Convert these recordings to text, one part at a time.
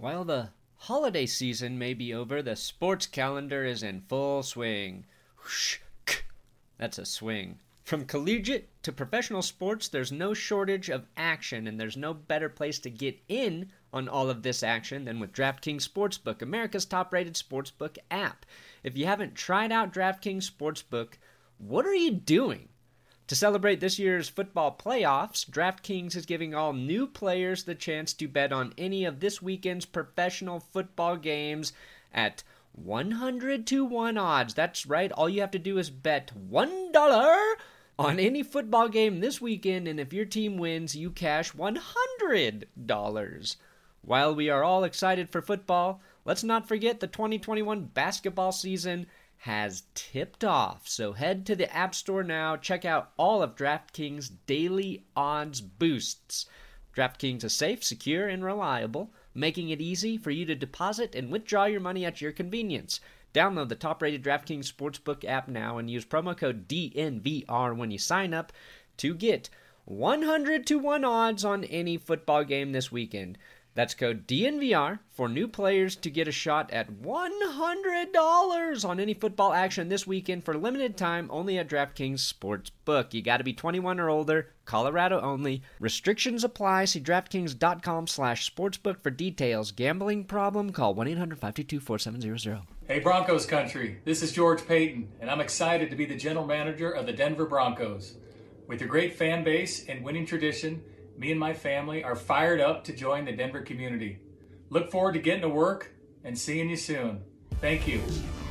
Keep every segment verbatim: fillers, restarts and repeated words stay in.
While the holiday season may be over, the sports calendar is in full swing. Whoosh, that's a swing. From collegiate to professional sports, there's no shortage of action, and there's no better place to get in on all of this action than with DraftKings Sportsbook, America's top-rated sportsbook app. If you haven't tried out DraftKings Sportsbook, what are you doing? To celebrate this year's football playoffs, DraftKings is giving all new players the chance to bet on any of this weekend's professional football games at one hundred to one odds. That's right, all you have to do is bet one dollar on any football game this weekend, and if your team wins, you cash one hundred dollars. While we are all excited for football, let's not forget the twenty twenty-one basketball season has tipped off. So head to the App Store now, check out all of DraftKings' daily odds boosts. DraftKings is safe, secure, and reliable, making it easy for you to deposit and withdraw your money at your convenience. Download the top-rated DraftKings Sportsbook app now and use promo code D N V R when you sign up to get one hundred to one odds on any football game this weekend. That's code D N V R for new players to get a shot at one hundred dollars on any football action this weekend for limited time only at DraftKings Sportsbook. You got to be twenty-one or older, Colorado only. Restrictions apply. See DraftKings.com slash sportsbook for details. Gambling problem? Call one eight hundred five two two four seven zero zero. Hey Broncos country, this is George Payton, and I'm excited to be the general manager of the Denver Broncos. With your great fan base and winning tradition, me and my family are fired up to join the Denver community. Look forward to getting to work and seeing you soon. Thank you.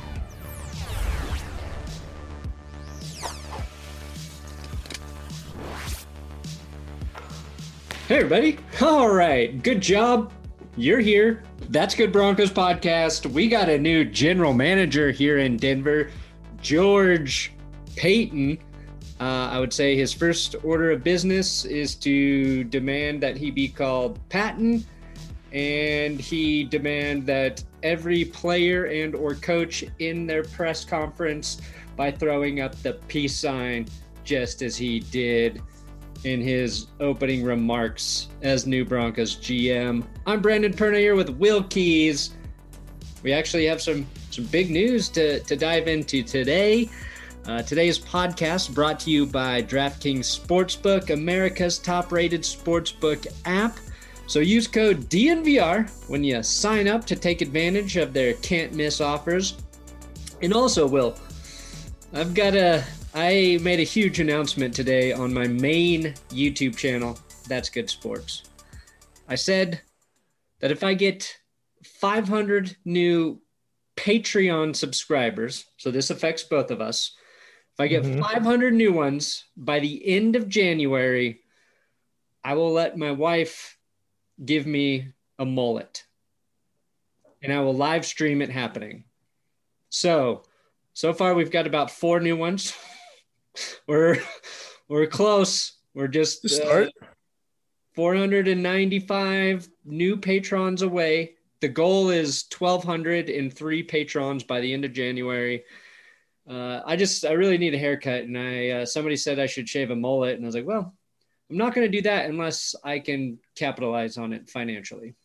Hey everybody. All right. Good job. You're here. That's Good Broncos podcast. We got a new general manager here in Denver, George Payton. Uh, I would say his first order of business is to demand that he be called Patton, and he demand that every player and or coach in their press conference by throwing up the peace sign, just as he did in his opening remarks as new Broncos G M. I'm Brandon Perna here with Will Keys. We actually have some some big news to, to dive into today. Uh, today's podcast brought to you by DraftKings Sportsbook, America's top-rated sportsbook app. So use code D N V R when you sign up to take advantage of their can't-miss offers. And also, Will, I've got a, I made a huge announcement today on my main YouTube channel, That's Good Sports. I said that if I get five hundred new Patreon subscribers, so this affects both of us, if I get mm-hmm. five hundred new ones by the end of January, I will let my wife give me a mullet. And I will live stream it happening. So, so far we've got about four new ones. we're we're close. We're just uh, four hundred ninety-five new patrons away. The goal is twelve hundred and three patrons by the end of January. Uh, I just, I really need a haircut, and I, uh, somebody said I should shave a mullet, and I was like, well, I'm not going to do that unless I can capitalize on it financially.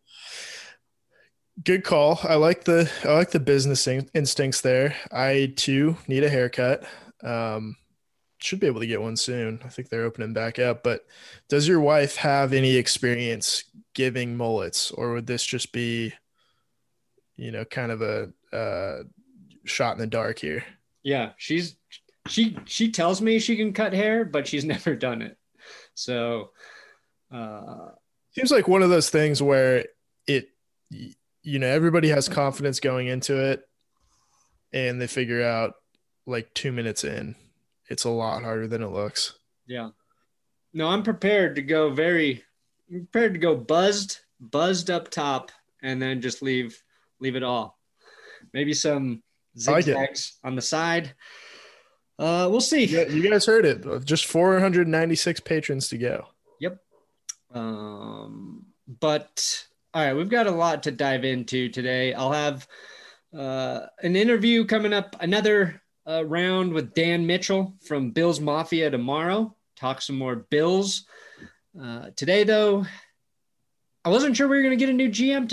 Good call. I like the, I like the business in- instincts there. I too need a haircut. Um, should be able to get one soon. I think they're opening back up, but does your wife have any experience giving mullets, or would this just be, you know, kind of a, uh, shot in the dark here? Yeah, she's she she tells me she can cut hair, but she's never done it. So uh seems like one of those things where it, you know, everybody has confidence going into it, and they figure out like two minutes in, it's a lot harder than it looks. Yeah. No, I'm prepared to go very I'm prepared to go buzzed, buzzed up top, and then just leave leave it all. Maybe some zigzags on the side. Uh, we'll see. Yeah, you guys heard it. Just four hundred ninety-six patrons to go. Yep. Um, but all right, we've got a lot to dive into today. I'll have uh, an interview coming up, another uh, round with Dan Mitchell from Bills Mafia tomorrow. Talk some more Bills. Uh, today, though, I wasn't sure we were going to get a new G M today.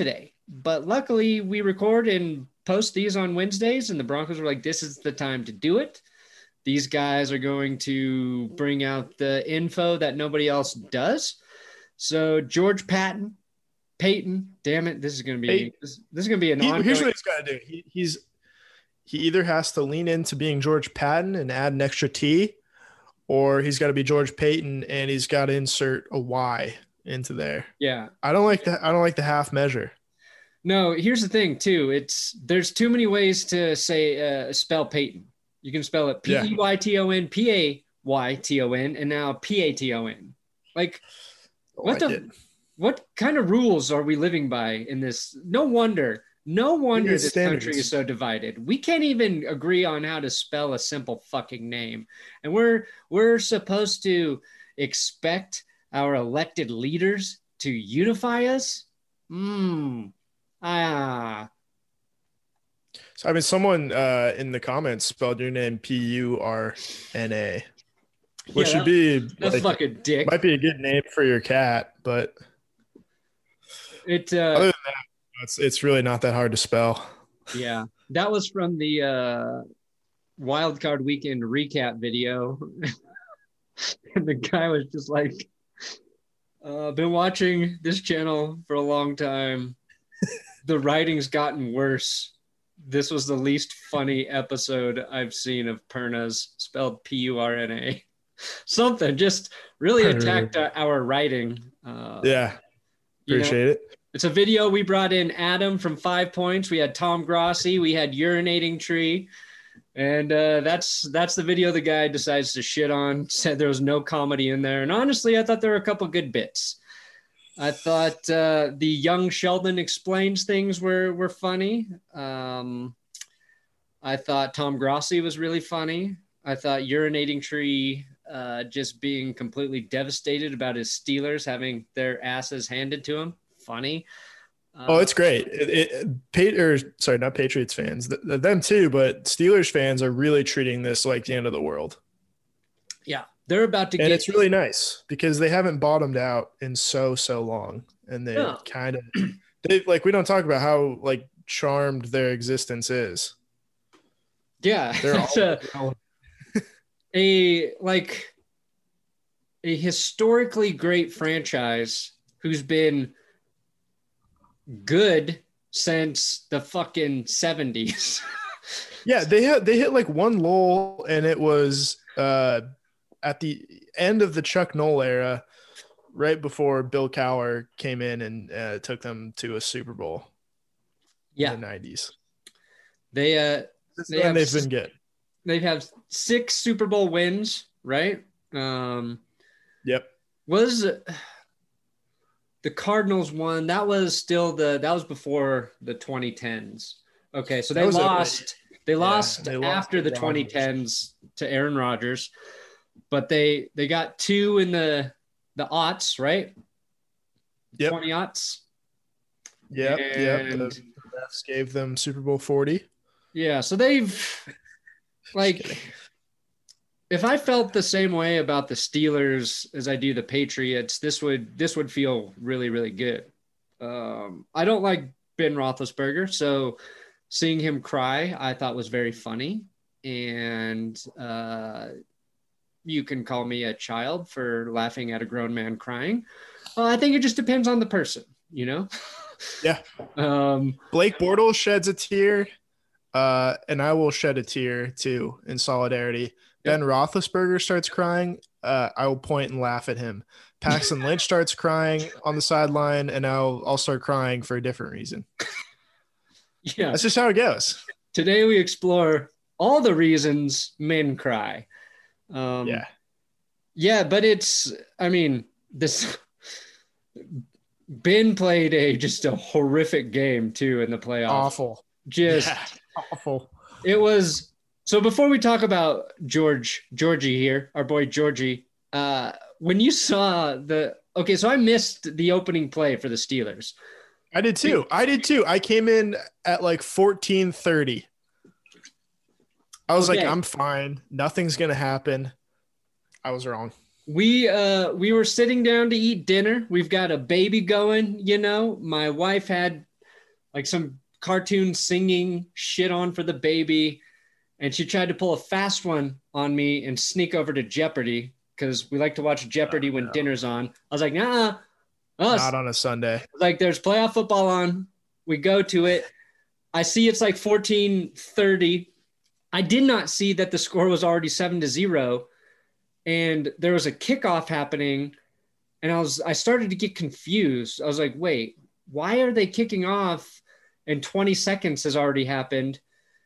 but luckily we record and post these on Wednesdays, and the Broncos were like, this is the time to do it. These guys are going to bring out the info that nobody else does. So George Patton, Payton, damn it, this is going to be Hey, this, this is going to be an he, ongoing. here's what he's got to do. He, he's he either has to lean into being George Patton and add an extra T, or he's got to be George Payton and he's got to insert a Y into there. Yeah. I don't like that. I don't like the half measure. No, here's the thing too. It's there's too many ways to say uh, spell Payton. You can spell it P E Y T O N, P A Y T O N, and now P A T O N. Like, what like the, it. what kind of rules are we living by in this? No wonder, no wonder need this standards. country is so divided. We can't even agree on how to spell a simple fucking name, and we're we're supposed to expect our elected leaders to unify us. Hmm. Ah. So, I mean, someone uh, in the comments spelled your name P U R N A, which Yeah, should be That's like, fucking dick. might be a good name for your cat, but It. other Uh, than that, it's it's really not that hard to spell. yeah, that was from the uh, Wild Card Weekend recap video, and the guy was just like, uh, "Been watching this channel for a long time. The writing's gotten worse. This was the least funny episode I've seen of Pernas, spelled P U R N A. Something just really attacked uh, our writing. Uh, Yeah, you know, appreciate it. It's a video. We brought in Adam from Five Points. We had Tom Grossi. We had Urinating Tree. And uh, that's that's the video the guy decides to shit on. Said there was no comedy in there. And honestly, I thought there were a couple good bits. I thought uh, the young Sheldon explains things were were funny. Um, I thought Tom Grossi was really funny. I thought Urinating Tree uh, just being completely devastated about his Steelers having their asses handed to him. Funny. Uh, Oh, it's great. It, it, Pat- or, sorry, not Patriots fans, th- them too, but Steelers fans are really treating this like the end of the world. Yeah, they're about to And get. it's really nice because they haven't bottomed out in so, so long. And they No. kind of, they like, we don't talk about how like charmed their existence is. Yeah, They're it's all, a, a like a historically great franchise who's been good since the fucking seventies. yeah, they had, they hit like one lull and it was uh, at the end of the Chuck Noll era, right before Bill Cowher came in and uh, took them to a Super Bowl Yeah, in the nineties. they uh they And have they've been good. they've had six Super Bowl wins, right? Um, Yep. was the Cardinals one that was still the that was before the twenty tens. Okay, so they That was a- lost they lost they lost after to the Rodgers. twenty tens to Aaron Rodgers, but they they got two in the the aughts, right? Yep. twenty aughts. Yep. Yep. And- The refs gave them Super Bowl forty. Yeah, so they've like if I felt the same way about the Steelers as I do the Patriots, this would this would feel really, really good. Um, I don't like Ben Roethlisberger, so seeing him cry, I thought was very funny. And uh, you can call me a child for laughing at a grown man crying. Uh, I think it just depends on the person, you know? Yeah. Um, Blake Bortles sheds a tear, uh, and I will shed a tear too in solidarity. Ben Roethlisberger starts crying, uh, I will point and laugh at him. Paxton Lynch starts crying on the sideline, and I'll I'll start crying for a different reason. yeah. That's just how it goes. Today we explore all the reasons men cry. Um, Yeah. Yeah, but it's, I mean, this Ben played a just a horrific game too in the playoffs. Awful. Just Yeah, awful. it was. So before we talk about George Georgie here, our boy Georgie, uh, when you saw the okay, so I missed the opening play for the Steelers. I did too. I did too. I came in at like fourteen thirty. I was Okay. like, I'm fine. Nothing's gonna happen. I was wrong. We uh we were sitting down to eat dinner. We've got a baby going, you know. My wife had like some cartoon singing shit on for the baby. And she tried to pull a fast one on me and sneak over to Jeopardy because we like to watch Jeopardy oh, when no. dinner's on. I was like, nah, oh, not on a Sunday. Like there's playoff football on. We go to it. I see it's like fourteen thirty. I did not see that the score was already seven to zero. And there was a kickoff happening. And I was, I started to get confused. I was like, wait, why are they kicking off and twenty seconds has already happened?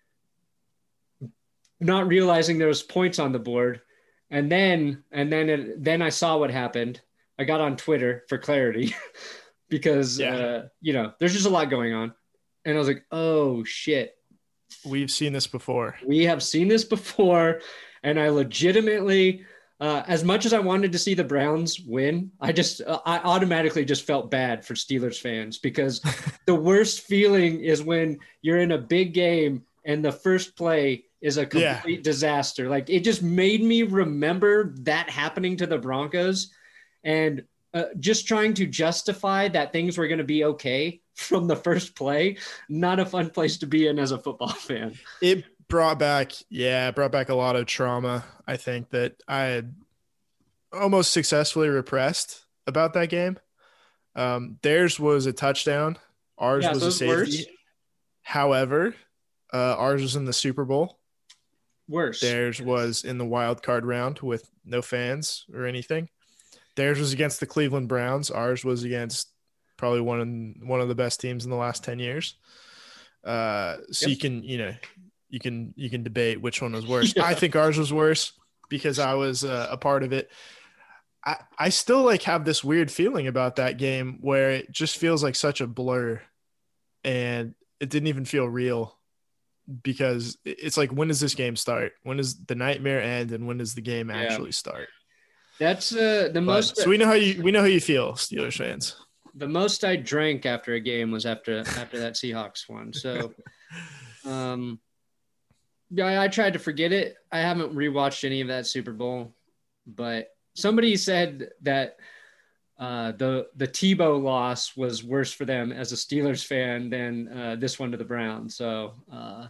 Not realizing there was points on the board. And then, and then, it, then I saw what happened. I got on Twitter for clarity because, yeah. uh, you know, there's just a lot going on. And I was like, oh shit. We've seen this before. We have seen this before. And I legitimately, uh, as much as I wanted to see the Browns win, I just, uh, I automatically just felt bad for Steelers fans because the worst feeling is when you're in a big game and the first play is a complete yeah. disaster. Like it just made me remember that happening to the Broncos and uh, just trying to justify that things were going to be okay from the first play. Not a fun place to be in as a football fan. It brought back, yeah, it brought back a lot of trauma. I think that I had almost successfully repressed about that game. Um, theirs was a touchdown. Ours yeah, was so a safety. Worse. However, uh, ours was in the Super Bowl. Worse. Theirs was in the wild card round with no fans or anything. Theirs was against the Cleveland Browns. Ours was against probably one of one of the best teams in the last ten years. Uh, so yep. you can, you know, you can you can debate which one was worse. yeah. I think ours was worse because I was uh, a part of it. I I still like have this weird feeling about that game where it just feels like such a blur, and it didn't even feel real. Because it's like, when does this game start? When does the nightmare end? And when does the game actually yeah. start? That's uh, the but, most. So we know how you we know how you feel, Steelers fans. The most I drank after a game was after after that Seahawks one. So, um, yeah, I, I tried to forget it. I haven't rewatched any of that Super Bowl, but somebody said that uh, the the Tebow loss was worse for them as a Steelers fan than uh, this one to the Browns. So. Uh,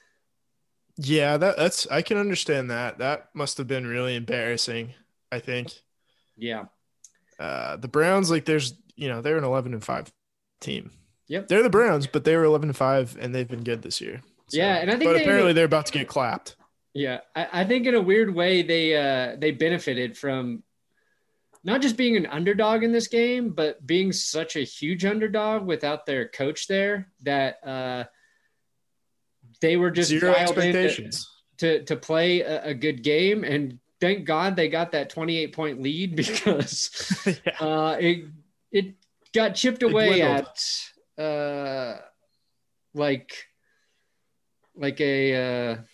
Yeah, that, that's I can understand that. That must have been really embarrassing, I think. Yeah. Uh, the Browns, like, there's, you know, they're an eleven and five team. Yep. They're the Browns, but they were eleven and five, and they've been good this year. So, yeah, and I think but they, apparently they're about to get clapped. Yeah, I, I think in a weird way they uh, they benefited from not just being an underdog in this game, but being such a huge underdog without their coach there that uh, they were just zero expectations to, to to play a, a good game. And thank God they got that twenty-eight point lead because yeah. uh, it it got chipped away at uh, like like a uh,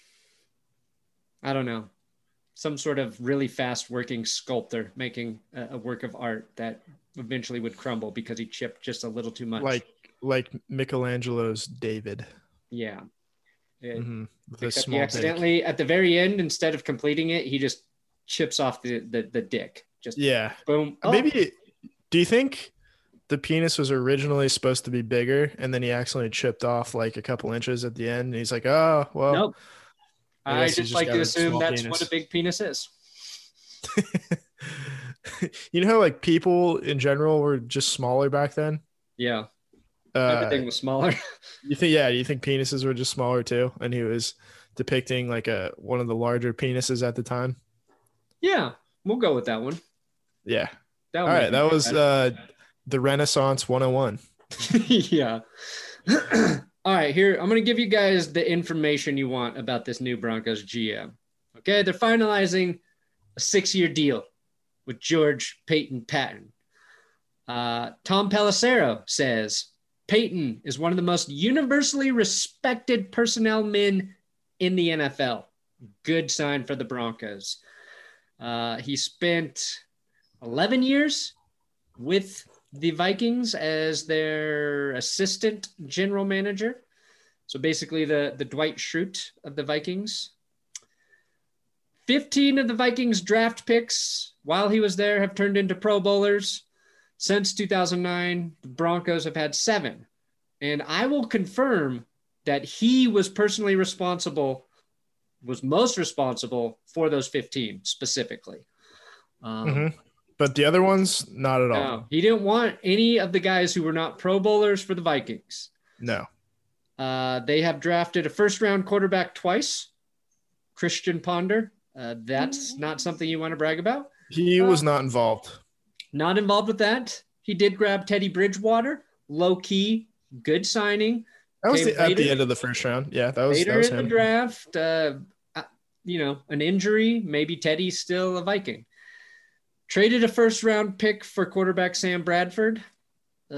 I don't know, some sort of really fast working sculptor making a, a work of art that eventually would crumble because he chipped just a little too much. Like like Michelangelo's David. Yeah. It, mm-hmm. Except he accidentally dick. At the very end, instead of completing it, he just chips off the the, the dick. Just yeah. Boom. Oh. Maybe. Do you think the penis was originally supposed to be bigger, and then he accidentally chipped off like a couple inches at the end, and he's like, "Oh, well." Nope. I, I just, just like to assume that's penis. What a big penis is. You know how like people in general were just smaller back then? Yeah. Uh, Everything was smaller. You think, yeah, you think penises were just smaller too? And he was depicting like a one of the larger penises at the time. Yeah, we'll go with that one. Yeah. That All right, that was uh, the Renaissance one oh one. Yeah. All right, here, I'm going to give you guys the information you want about this new Broncos G M. Okay, they're finalizing a six-year deal with George Payton Patton. Uh, Tom Pelissero says, Payton is one of the most universally respected personnel men in the N F L. Good sign for the Broncos. Uh, he spent eleven years with the Vikings as their assistant general manager. So basically the, the Dwight Schrute of the Vikings. fifteen of the Vikings draft picks while he was there have turned into Pro Bowlers. Since two thousand nine, the Broncos have had seven And I will confirm that he was personally responsible, was most responsible for those fifteen specifically. Um, Mm-hmm. But the other ones, not at all. no, he didn't want any of the guys who were not Pro Bowlers for the Vikings. No. Uh, they have drafted a first-round quarterback twice, Christian Ponder. Uh, that's not something you want to brag about. He Uh, was not involved. Not involved with that. He did grab Teddy Bridgewater, low-key, good signing. That was Came the, at later- the end of the first round. Yeah, that was, Later that was in him. the draft, uh, uh, you know, an injury, maybe Teddy's still a Viking. Traded a first round pick for quarterback Sam Bradford. Uh,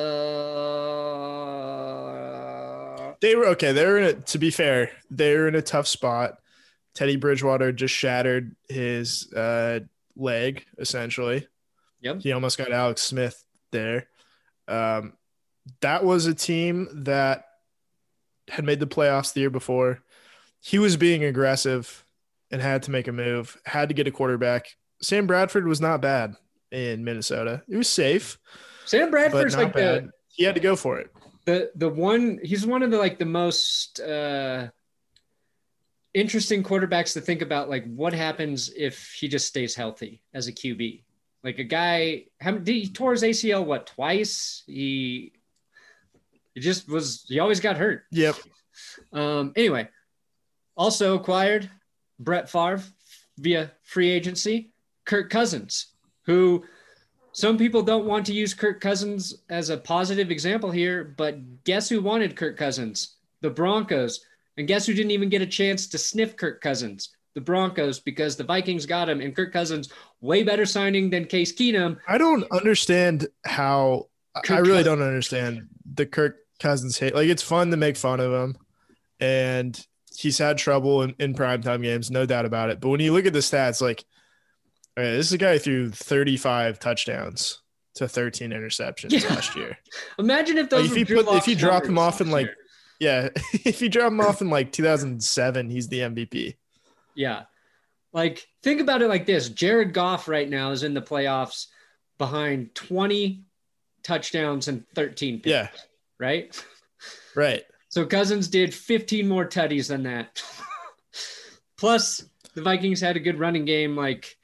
They were okay. They were in a, to be fair, they were in a tough spot. Teddy Bridgewater just shattered his uh, leg, essentially. Yep. He almost got Alex Smith there. Um, that was a team that had made the playoffs the year before. He was being aggressive and had to make a move, had to get a quarterback. Sam Bradford was not bad in Minnesota. It was safe, Sam but Bradford's not like bad. the, He had to go for it. the the one. He's one of the like the most uh, interesting quarterbacks to think about. Like, what happens if he just stays healthy as a Q B? Like a guy, how, did he tore his A C L what twice? He he just was. He always got hurt. Yep. Um, anyway, also acquired Brett Favre via free agency, Kirk Cousins, who some people don't want to use Kirk Cousins as a positive example here, but guess who wanted Kirk Cousins? The Broncos. And guess who didn't even get a chance to sniff Kirk Cousins? The Broncos, because the Vikings got him, and Kirk Cousins, way better signing than Case Keenum. I don't understand how Kirk I really Cousins. don't understand the Kirk Cousins hate. Like, it's fun to make fun of him, and he's had trouble in, in primetime games, no doubt about it. But when you look at the stats, like, all right, this is a guy who threw thirty-five touchdowns to thirteen interceptions Yeah. last year. Imagine if Like, those if were you Drew put if Lock's you drop him numbers off in last like year. yeah, if you drop him off in like two thousand seven, he's the M V P. Yeah. Like, think about it like this. Jared Goff right now is in the playoffs behind twenty touchdowns and thirteen picks, Yeah. right? Right. So Cousins did fifteen more tutties than that. Plus, the Vikings had a good running game. Like,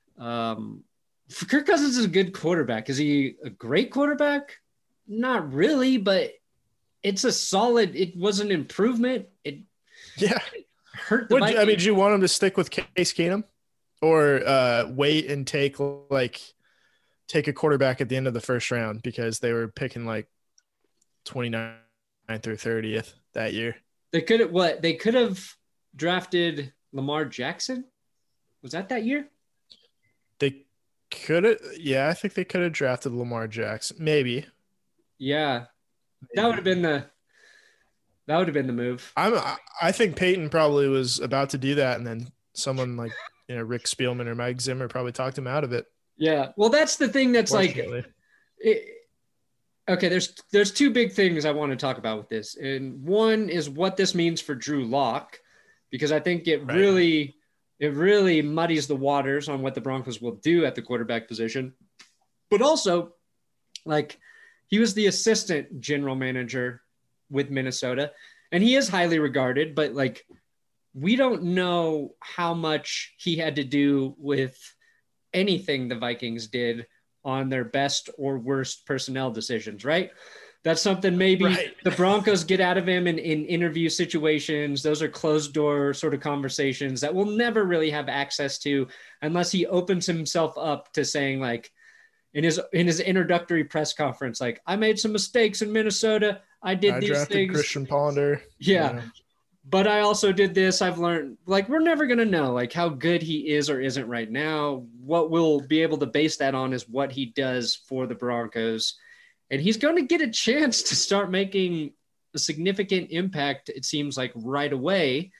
um, Kirk Cousins is a good quarterback. Is he a great quarterback? Not really, but it's a solid. It was an improvement. It Yeah. hurt the What, Vikings. I mean, do you want him to stick with Case Keenum, or uh, wait and take like take a quarterback at the end of the first round because they were picking like twenty-ninth or thirtieth that year? They could have what? They could have drafted Lamar Jackson. Was that that year? They could have, yeah, I think they could have drafted Lamar Jackson, maybe. Yeah, that would have been the that would have been the move. I'm, I- I think Peyton probably was about to do that, and then someone like you know Rick Spielman or Mike Zimmer probably talked him out of it. Yeah. Well, that's the thing. That's like, fortunately. it, okay. There's there's two big things I want to talk about with this, and one is what this means for Drew Lock, because I think it Right. really it really muddies the waters on what the Broncos will do at the quarterback position, but also like he was the assistant general manager with Minnesota, and he is highly regarded, but like we don't know how much he had to do with anything the Vikings did on their best or worst personnel decisions, right? That's something maybe Right. the Broncos get out of him in, in interview situations. Those are closed door sort of conversations that we'll never really have access to unless he opens himself up to saying, like, in his in his introductory press conference, like, I made some mistakes in Minnesota. I did I these drafted things. Christian Ponder. Yeah. Yeah. But I also did this. I've learned, like, we're never going to know, like, how good he is or isn't right now. What we'll be able to base that on is what he does for the Broncos. And he's going to get a chance to start making a significant impact, it seems like, right away.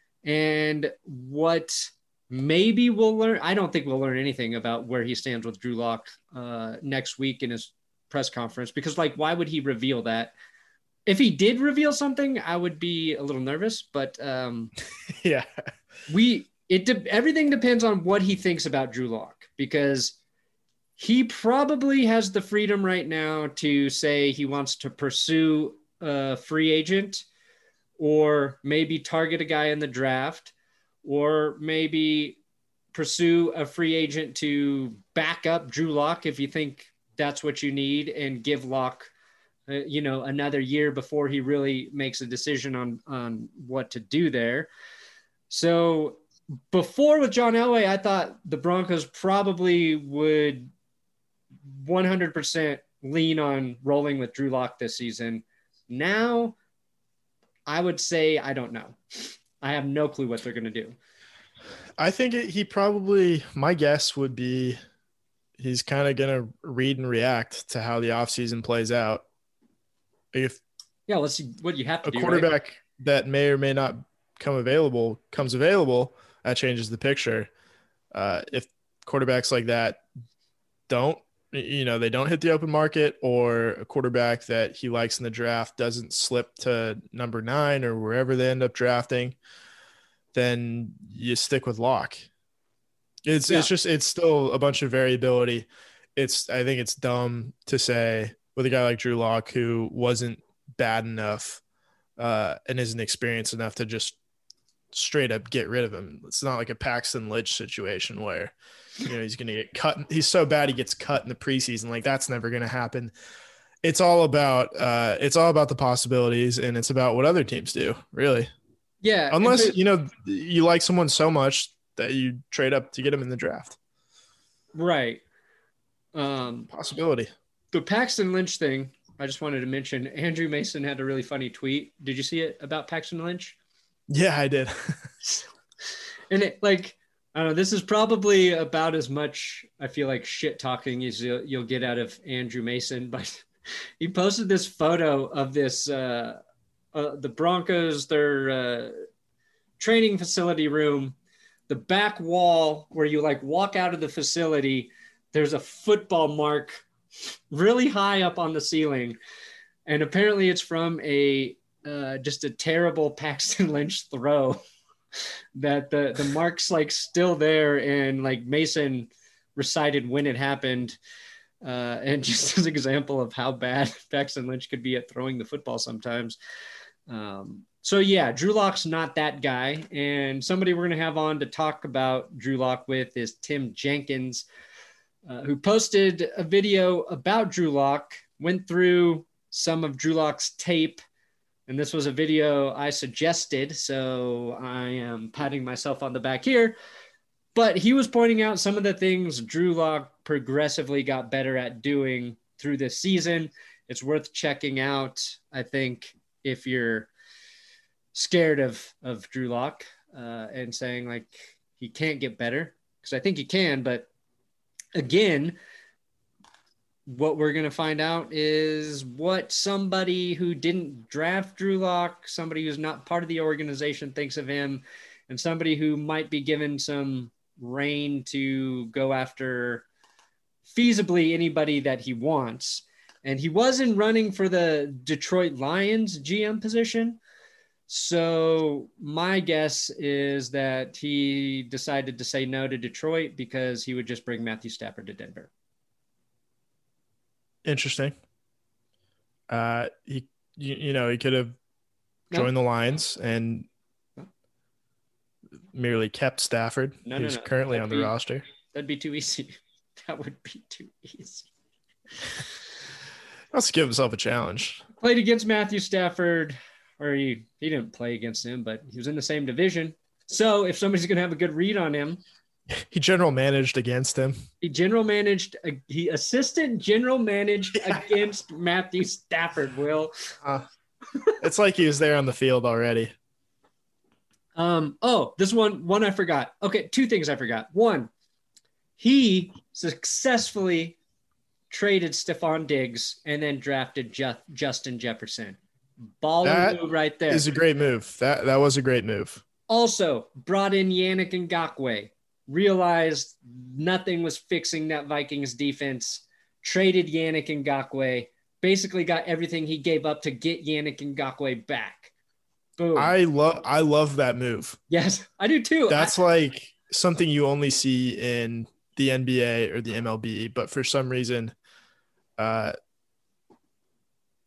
And what maybe we'll learn, I don't think we'll learn anything about where he stands with Drew Lock uh, next week in his press conference, because, like, why would he reveal that? If he did reveal something, I would be a little nervous, but um, Yeah. we it de- everything depends on what he thinks about Drew Lock, because he probably has the freedom right now to say he wants to pursue a free agent, or maybe target a guy in the draft, or maybe pursue a free agent to back up Drew Lock if you think that's what you need, and give Lock, uh, you know, another year before he really makes a decision on, on what to do there. So before with John Elway, I thought the Broncos probably would one hundred percent lean on rolling with Drew Lock this season. Now, I would say I don't know. I have no clue what they're going to do. I think it, he probably, my guess would be he's kind of going to read and react to how the offseason plays out. If yeah, let's see what you have to a do. Quarterback right? that may or may not come available comes available, that changes the picture. Uh, if quarterbacks like that don't, you know, they don't hit the open market, or a quarterback that he likes in the draft doesn't slip to number nine or wherever they end up drafting, then you stick with Lock. It's yeah. it's just it's still a bunch of variability. It's I think it's dumb to say with a guy like Drew Lock, who wasn't bad enough uh, and isn't experienced enough to just straight up get rid of him. It's not like a Paxton Lynch situation where, you know, he's going to get cut. He's so bad he gets cut in the preseason. Like, that's never going to happen. It's all about uh, it's all about the possibilities, and it's about what other teams do, really. Yeah. Unless, but, you know, you like someone so much that you trade up to get him in the draft. Right. Um, Possibility. The Paxton Lynch thing, I just wanted to mention, Andrew Mason had a really funny tweet. Did you see it about Paxton Lynch? Yeah, I did. And it, like, I don't know, this is probably about as much, I feel like, shit talking as you'll, you'll get out of Andrew Mason, but he posted this photo of this, uh, uh, the Broncos, their uh, training facility room, the back wall where you like walk out of the facility, there's a football mark really high up on the ceiling. And apparently it's from a, uh, just a terrible Paxton Lynch throw that the, the mark's like still there. And like Mason recited when it happened. Uh, and just as an example of how bad Paxton Lynch could be at throwing the football sometimes. Um, so yeah, Drew Lock's not that guy. And somebody we're going to have on to talk about Drew Lock with is Tim Jenkins, uh, who posted a video about Drew Lock, went through some of Drew Lock's tape. And this was a video I suggested, so I am patting myself on the back here. But he was pointing out some of the things Drew Lock progressively got better at doing through this season. It's worth checking out, I think, if you're scared of, of Drew Lock uh, and saying, like, he can't get better. Because I think he can, but again, what we're going to find out is what somebody who didn't draft Drew Lock, somebody who's not part of the organization, thinks of him, and somebody who might be given some reign to go after feasibly anybody that he wants. And he wasn't running for the Detroit Lions G M position. So my guess is that he decided to say no to Detroit because he would just bring Matthew Stafford to Denver. Interesting. Uh, he, you, you know, he could have joined no. the Lions and no. merely kept Stafford, no, who's no, no. currently that'd on the be, roster. That'd be too easy. That would be too easy. Let's give himself a challenge. Played against Matthew Stafford, or he, he didn't play against him, but he was in the same division. So if somebody's going to have a good read on him, he general managed against him. He general managed, he assistant general managed yeah. against Matthew Stafford, Will. Uh, it's like he was there on the field already. Um. Oh, this one, one I forgot. Okay, two things I forgot. One, he successfully traded Stephon Diggs and then drafted Ju- Justin Jefferson. Baller move right there. Is a great move. That that was a great move. Also, brought in Yannick Ngakoue. Realized nothing was fixing that Vikings defense, traded Yannick Ngakoue, basically got everything he gave up to get Yannick Ngakoue back. Boom. I love I love that move. Yes, I do too. That's I, like something you only see in the N B A or the M L B, but for some reason, uh,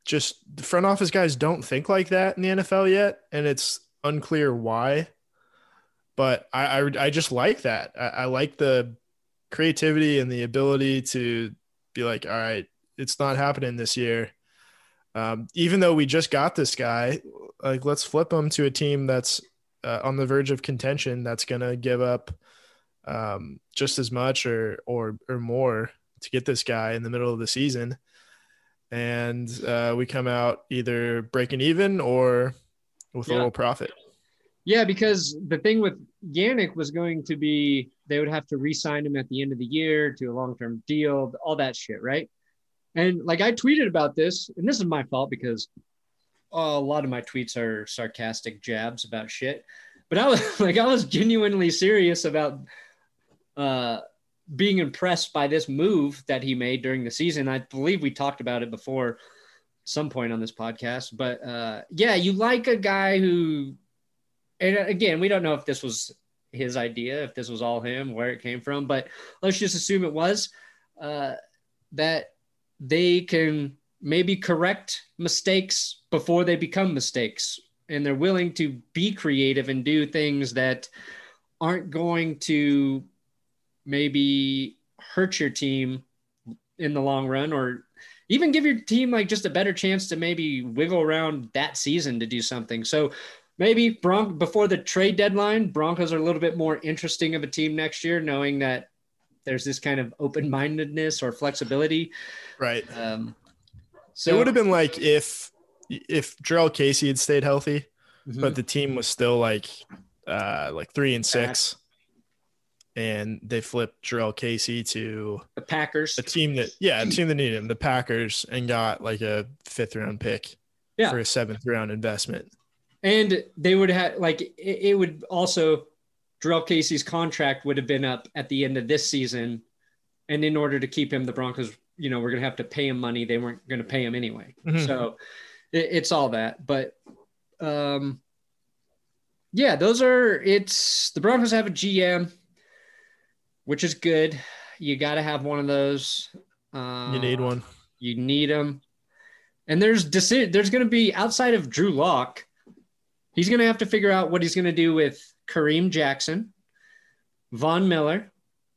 just the front office guys don't think like that in the N F L yet, and it's unclear why. But I I, I just like that. I, I like the creativity and the ability to be like, all right, it's not happening this year. Um, even though we just got this guy, like let's flip him to a team that's uh, on the verge of contention that's going to give up um, just as much or or or more to get this guy in the middle of the season. And uh, we come out either breaking even or with Yeah. a little profit. Yeah, because the thing with Yannick was going to be they would have to re-sign him at the end of the year to a long-term deal, all that shit, right? And like I tweeted about this, and this is my fault because uh, a lot of my tweets are sarcastic jabs about shit. But I was like, I was genuinely serious about uh, being impressed by this move that he made during the season. I believe we talked about it before at some point on this podcast. But uh, yeah, you like a guy who, and again, we don't know if this was his idea, if this was all him, where it came from, but let's just assume it was, uh, that they can maybe correct mistakes before they become mistakes. And they're willing to be creative and do things that aren't going to maybe hurt your team in the long run, or even give your team like just a better chance to maybe wiggle around that season to do something. So maybe Bron- before the trade deadline, Broncos are a little bit more interesting of a team next year, knowing that there's this kind of open-mindedness or flexibility. Right. Um, so It would have been like if if Jarrell Casey had stayed healthy, Mhm. but the team was still like uh, like three and six, and they flipped Jarrell Casey to the Packers. a team that yeah, a team that needed him, the Packers, and got like a fifth round pick Yeah. for a seventh round investment. And they would have like it, it would also Jarrell Casey's contract would have been up at the end of this season. And in order to keep him, the Broncos, you know, we're going to have to pay him money. They weren't going to pay him anyway. Mhm. So it, it's all that. But um, yeah, those are it's the Broncos have a G M, which is good. You got to have one of those. Uh, You need one. You need them. And there's deci- there's going to be outside of Drew Lock, he's going to have to figure out what he's going to do with Kareem Jackson, Von Miller,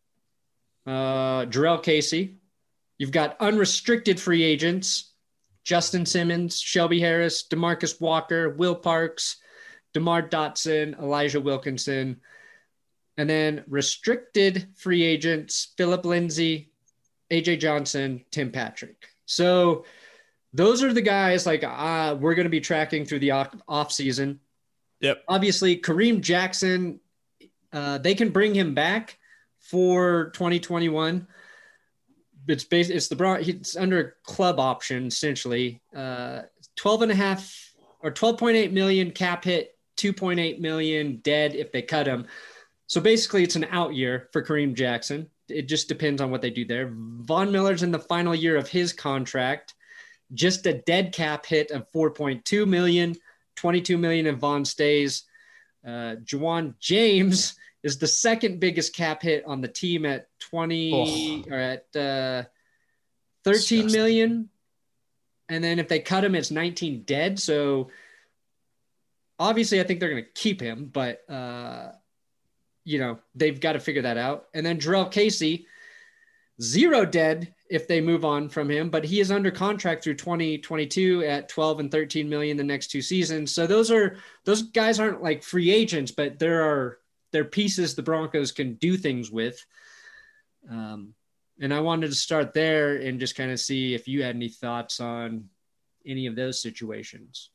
uh, Jarrell Casey. You've got unrestricted free agents, Justin Simmons, Shelby Harris, DeMarcus Walker, Will Parks, DeMar Dotson, Elijah Wilkinson. And then restricted free agents, Philip Lindsay, A J Johnson, Tim Patrick. So those are the guys like uh, we're going to be tracking through the off, off season. Yep. Obviously, Kareem Jackson, uh, they can bring him back for twenty twenty-one. It's based, it's the Bron- it's under a club option essentially. Uh, twelve and a half or twelve point eight million cap hit, two point eight million dead if they cut him. So basically, it's an out year for Kareem Jackson. It just depends on what they do there. Von Miller's in the final year of his contract. Just a dead cap hit of four point two million, twenty-two million if Von stays. Uh, Juwan James is the second biggest cap hit on the team at twenty Oh. or at uh, thirteen Disgusting. million. And then if they cut him, it's nineteen dead. So obviously, I think they're going to keep him, but uh, you know, they've got to figure that out. And then Jarrell Casey, zero dead if they move on from him, but he is under contract through twenty twenty-two at twelve and thirteen million the next two seasons. So those are, those guys aren't like free agents, but there are, they're pieces the Broncos can do things with. Um, and I wanted to start there and just kind of see if you had any thoughts on any of those situations.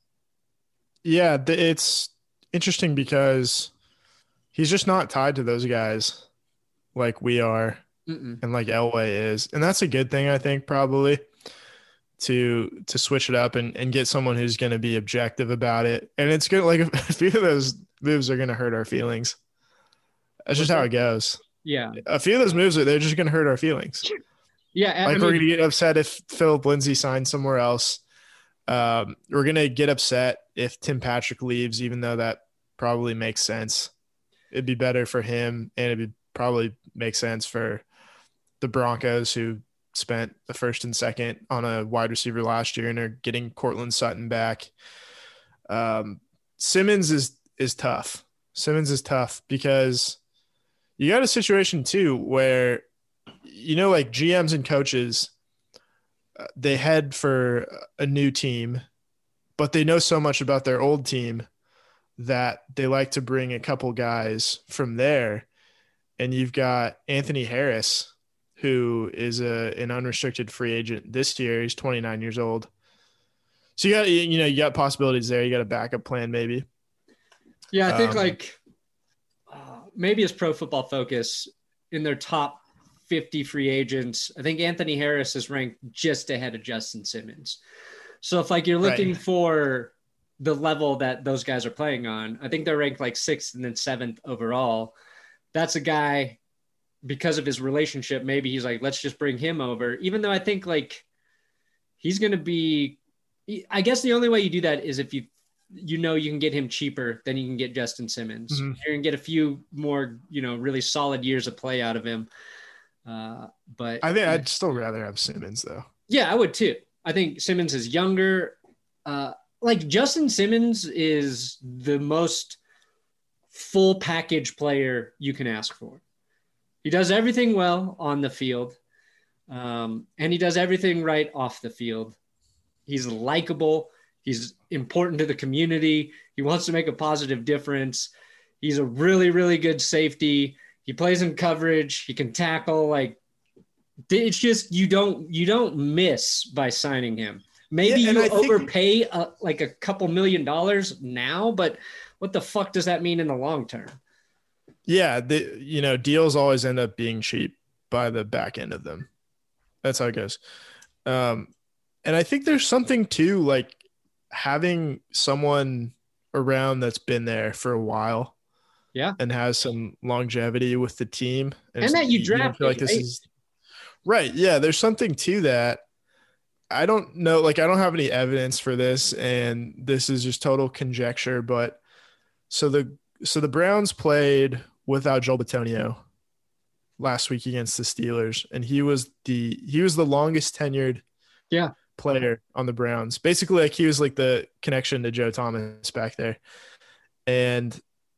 Yeah, th- it's interesting because he's just not tied to those guys like we are. Mm-mm. And like Elway is, and that's a good thing, I think, probably to to switch it up and, and get someone who's going to be objective about it. And it's good. Like a few of those moves are going to hurt our feelings. That's just how it goes. Yeah. A few of those moves are they're just going to hurt our feelings. Yeah. I Like mean, we're going to get upset if Philip Lindsay signs somewhere else. Um, we're going to get upset if Tim Patrick leaves, even though that probably makes sense. It'd be better for him, and it'd be, probably make sense for the Broncos, who spent the first and second on a wide receiver last year and are getting Cortland Sutton back. Um, Simmons is is tough. Simmons is tough because you got a situation too where, you know, like G Ms and coaches, uh, they head for a new team, but they know so much about their old team that they like to bring a couple guys from there. And you've got Anthony Harris, who is a an unrestricted free agent this year. He's twenty-nine years old. So you got, you know, you got possibilities there. You got a backup plan maybe. Yeah, I think Um, like uh, maybe as Pro Football Focus in their top fifty free agents, I think Anthony Harris is ranked just ahead of Justin Simmons. So if like you're looking Right. for the level that those guys are playing on, I think they're ranked like sixth and then seventh overall. That's a guy, because of his relationship, maybe he's like, let's just bring him over. Even though I think like he's going to be, I guess the only way you do that is if you, you know, you can get him cheaper than you can get Justin Simmons. Mhm. You're going to get a few more, you know, really solid years of play out of him. Uh, but I think I'd still rather have Simmons though. yeah, I would too. I think Simmons is younger. Uh, like Justin Simmons is the most full package player you can ask for. He does everything well on the field, um, and he does everything right off the field. He's likable. He's important to the community. He wants to make a positive difference. He's a really, really good safety. He plays in coverage. He can tackle. Like, it's just you don't you don't miss by signing him. Maybe Yeah, and you I think- overpay uh, like a couple million dollars now, but what the fuck does that mean in the long term? Yeah, the you know, deals always end up being cheap by the back end of them. That's how it goes. Um, and I think there's something too, like having someone around that's been there for a while, Yeah. and has some longevity with the team, And that you don't drafted, feel like this right? is right. Yeah, there's something to that. I don't know, like I don't have any evidence for this, and this is just total conjecture. But so the so the Browns played without Joel Bitonio last week against the Steelers, and he was the he was the longest tenured Yeah. player on the Browns. Basically, like he was like the connection to Joe Thomas back there, and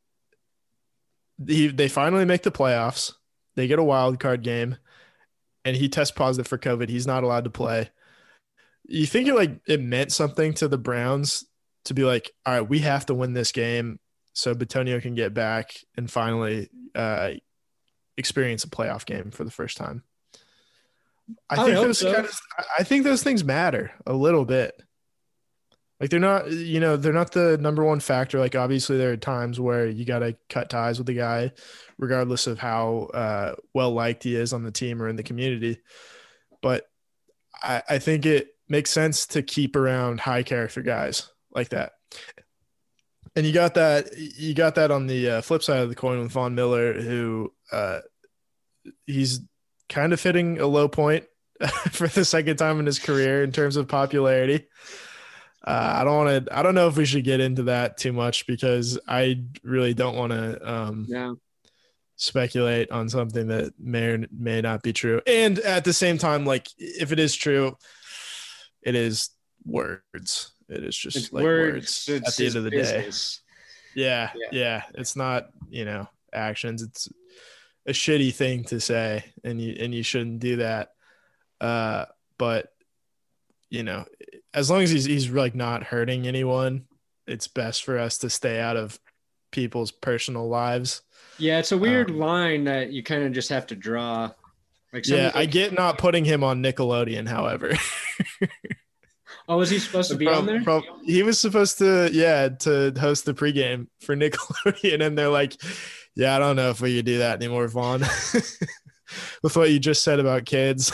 he, they finally make the playoffs. They get a wild card game, and he tests positive for COVID. He's not allowed to play. You think it like it meant something to the Browns to be like, all right, we have to win this game so Bitonio can get back and finally uh, experience a playoff game for the first time. I, I would think hope those so. kind of, I think those things matter a little bit. Like they're not, you know, they're not the number one factor. Like obviously there are times where you got to cut ties with the guy, regardless of how uh, well liked he is on the team or in the community. But I, I think it makes sense to keep around high character guys like that. And you got that, you got that on the uh, flip side of the coin with Von Miller, who uh, he's kind of hitting a low point for the second time in his career in terms of popularity. Uh, I don't want to, I don't know if we should get into that too much because I really don't want to um, Yeah. speculate on something that may or may not be true. And at the same time, like if it is true, it is words. It is just It's like words. words at It's the his end of the day. business. Yeah, Yeah. yeah. It's not, you know, actions. It's a shitty thing to say, and you and you shouldn't do that. Uh, but you know, as long as he's he's like not hurting anyone, it's best for us to stay out of people's personal lives. Yeah, it's a weird Um, line that you kind of just have to draw. Like Yeah, somebody- I get not putting him on Nickelodeon, however. Oh, was he supposed to be on there? Prob- he was supposed to, yeah, to host the pregame for Nickelodeon, and they're like, "Yeah, I don't know if we could do that anymore, Vaughn." With what you just said about kids.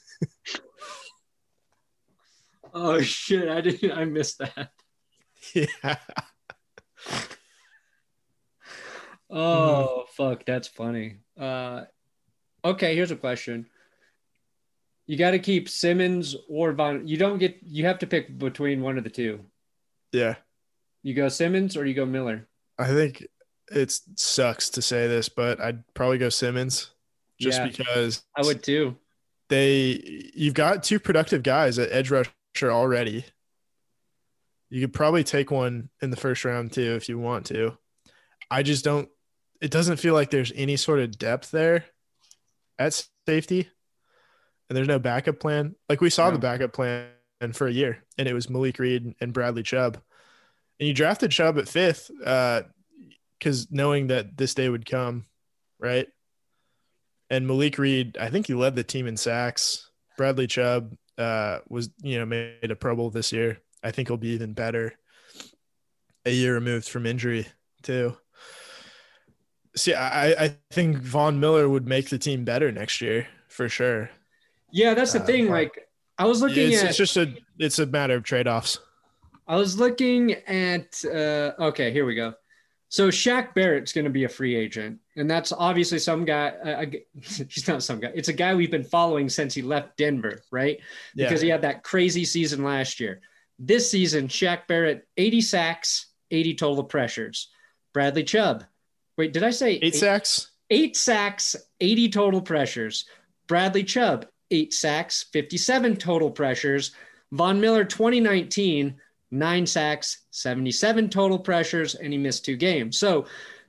Oh shit! I didn't. I missed that. Yeah. Oh fuck, that's funny. Uh, okay, here's a question. You got to keep Simmons or Von. You don't get. You have to pick between one of the two. Yeah. You go Simmons or you go Miller. I think it sucks to say this, but I'd probably go Simmons just Yeah. because I would too. they you've got two productive guys at edge rusher already. You could probably take one in the first round too if you want to. I just don't – it doesn't feel like there's any sort of depth there at safety, and there's no backup plan. Like we saw No. the backup plan for a year, and it was Malik Reed and Bradley Chubb. And you drafted Chubb at fifth because uh, knowing that this day would come, right? And Malik Reed, I think he led the team in sacks. Bradley Chubb uh, was, you know, made a Pro Bowl this year. I think he'll be even better a year removed from injury too. See, I, I think Von Miller would make the team better next year for sure. Yeah, that's the Uh, thing. Like I was looking It's, at, it's just a it's a matter of trade-offs. I was looking at, uh, okay, here we go. So Shaq Barrett's going to be a free agent, and that's obviously some guy. Uh, he's not some guy. It's a guy we've been following since he left Denver, right? Because Yeah. he had that crazy season last year. This season, Shaq Barrett, eighty sacks, eighty total pressures. Bradley Chubb. Wait, did I say Eight sacks? Eight sacks, eighty total pressures. Bradley Chubb, eight sacks, fifty-seven total pressures. Von Miller, twenty nineteen, nine sacks, seventy-seven total pressures, and he missed two games. So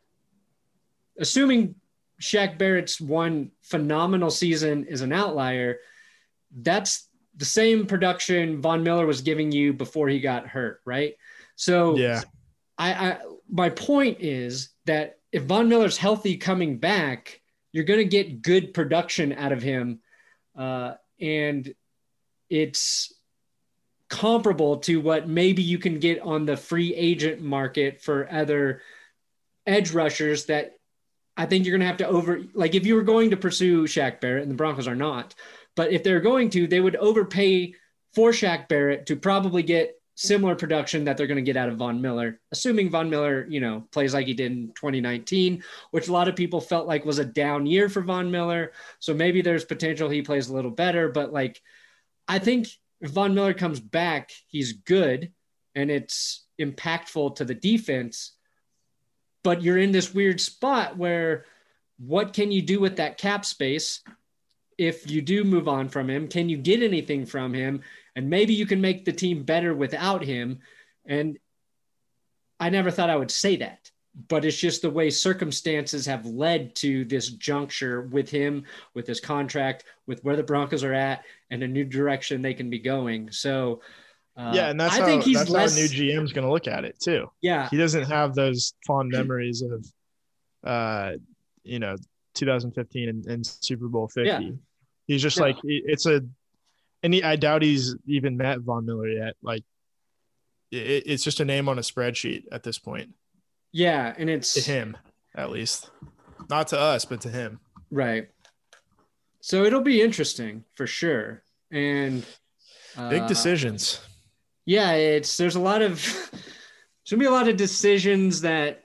assuming Shaq Barrett's one phenomenal season is an outlier, that's the same production Von Miller was giving you before he got hurt, right? So Yeah. I, I my point is that if Von Miller's healthy coming back, you're going to get good production out of him. Uh, and it's comparable to what maybe you can get on the free agent market for other edge rushers that I think you're going to have to over, like if you were going to pursue Shaq Barrett, and the Broncos are not, but if they're going to, they would overpay for Shaq Barrett to probably get similar production that they're going to get out of Von Miller, assuming Von Miller, you know, plays like he did in twenty nineteen, which a lot of people felt like was a down year for Von Miller. So maybe there's potential he plays a little better, but like, I think if Von Miller comes back, he's good and it's impactful to the defense, but you're in this weird spot where what can you do with that cap space? If you do move on from him, can you get anything from him? And maybe you can make the team better without him. And I never thought I would say that, but it's just the way circumstances have led to this juncture with him, with his contract, with where the Broncos are at and a new direction they can be going. So uh, Yeah, and that's I how think he's that's less, how a new G M is going to look at it too. yeah, He doesn't have those fond memories of, uh, you know, two thousand fifteen and, and Super Bowl fifty. Yeah. He's just Yeah. like it's a, and he, I doubt he's even met Von Miller yet. Like, it, it's just a name on a spreadsheet at this point. yeah. And it's To him, at least, not to us, but to him. right. So it'll be interesting for sure. And uh, Big decisions. yeah, it's there's a lot of there's gonna be a lot of decisions that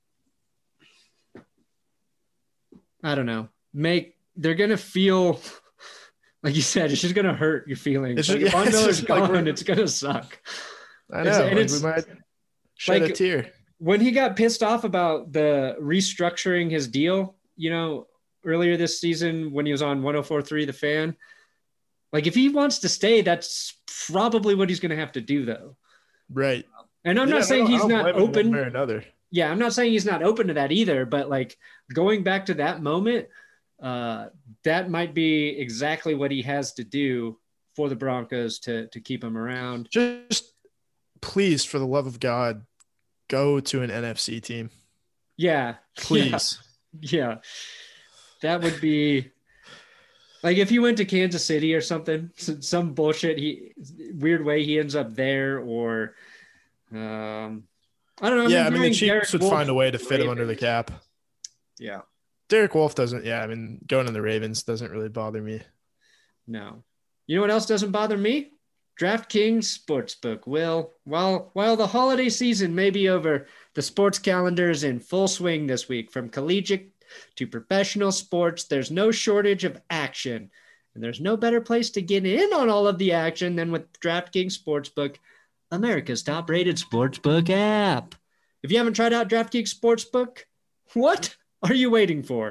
I don't know make they're gonna feel like you said it's just gonna hurt your feelings. It's Like, just- if Von yeah, it's Miller's just like gone, we're- it's gonna suck. I It's- know. and Like, it's- we might shed like- a tear. When he got pissed off about the restructuring his deal, you know, earlier this season when he was on one oh four point three The Fan, like if he wants to stay, that's probably what he's gonna have to do though. Right. And I'm Yeah, not I saying don't- I he's don't not blame him one open. way or another. Yeah, I'm not saying he's not open to that either, but like going back to that moment, uh, that might be exactly what he has to do for the Broncos to to keep him around. Just please, for the love of God, go to an N F C team. Yeah, Please. yeah, yeah. That would be like if he went to Kansas City or something, some, some bullshit. He weird way he ends up there, or um, I don't know. I'm Yeah, I mean, the hearing Derek Chiefs would Wolfe- find a way to fit him under the cap. Yeah. Derek Wolf doesn't. Yeah, I mean, going to the Ravens doesn't really bother me. No. You know what else doesn't bother me? DraftKings Sportsbook. Will, while while the holiday season may be over, the sports calendar is in full swing this week. From collegiate to professional sports, there's no shortage of action. And there's no better place to get in on all of the action than with DraftKings Sportsbook, America's top-rated sportsbook app. If you haven't tried out DraftKings Sportsbook, what are you waiting for?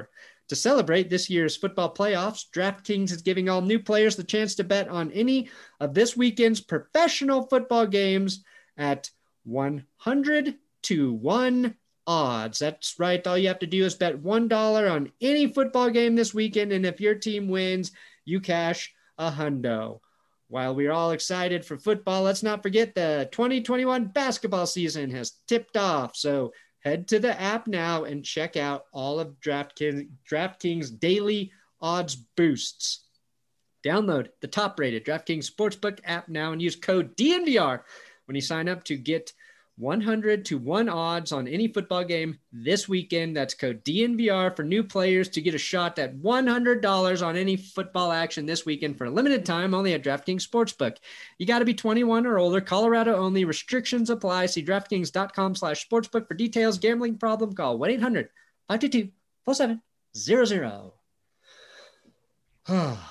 To celebrate this year's football playoffs, DraftKings is giving all new players the chance to bet on any of this weekend's professional football games at one hundred to one odds. That's right. All you have to do is bet one dollar on any football game this weekend, and if your team wins, you cash a hundo. While we're all excited for football, let's not forget the twenty twenty-one basketball season has tipped off. So head to the app now and check out all of DraftKings, DraftKings daily odds boosts. Download the top-rated DraftKings Sportsbook app now and use code D N V R when you sign up to get one hundred to one odds on any football game this weekend. That's code D N V R for new players to get a shot at one hundred dollars on any football action this weekend for a limited time only at DraftKings Sportsbook. You got to be twenty-one or older. Colorado only. Restrictions apply. See DraftKings.com slash sportsbook for details. Gambling problem? Call one eight hundred five two two four seven zero zero. Got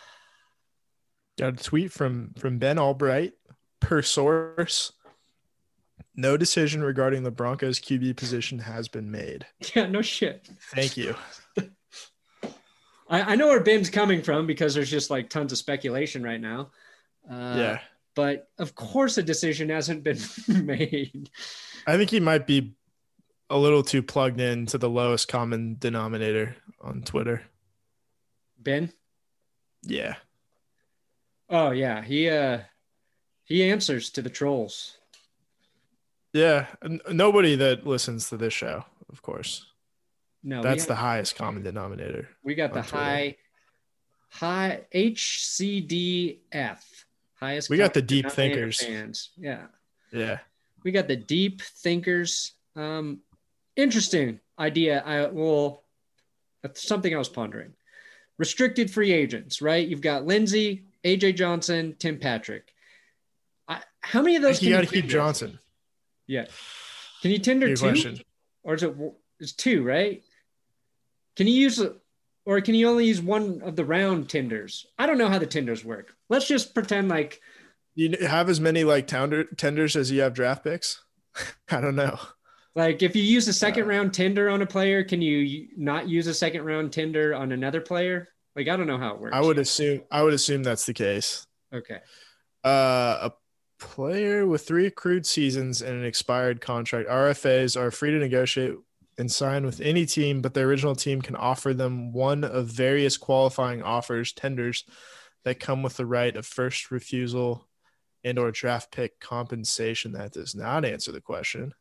a tweet from, from Ben Albright per source. No decision regarding the Broncos Q B position has been made. Yeah, no shit. Thank you. I, I know where Ben's coming from because there's just like tons of speculation right now. Uh, yeah. But of course a decision hasn't been made. I think he might be a little too plugged in to the lowest common denominator on Twitter. Ben? Yeah. Oh, yeah. He uh, he answers to the trolls. Yeah, n- nobody that listens to this show, of course. No, That's got, the highest common denominator. We got the Twitter. high, high H C D F, highest. We got the deep denominator thinkers. Fans. Yeah, Yeah. we got the deep thinkers. Um, interesting idea. I will. That's something I was pondering. Restricted free agents, right? You've got Lindsey, A J Johnson, Tim Patrick. I, how many of those? You got to can you keep tender? Johnson. Yeah. Can you tender Good two? question. Or is it it's two, right? Can you use or can you only use one of the round tenders? I don't know how the tenders work. Let's just pretend like You have as many like tender, tenders as you have draft picks? I don't know. like if you use a second Uh, round tender on a player, can you not use a second round tender on another player? Like I don't know how it works. I would assume I would assume that's the case. Okay. Uh, a player with three accrued seasons and an expired contract. R F As are free to negotiate and sign with any team, but the original team can offer them one of various qualifying offers, tenders, that come with the right of first refusal and or draft pick compensation. That does not answer the question.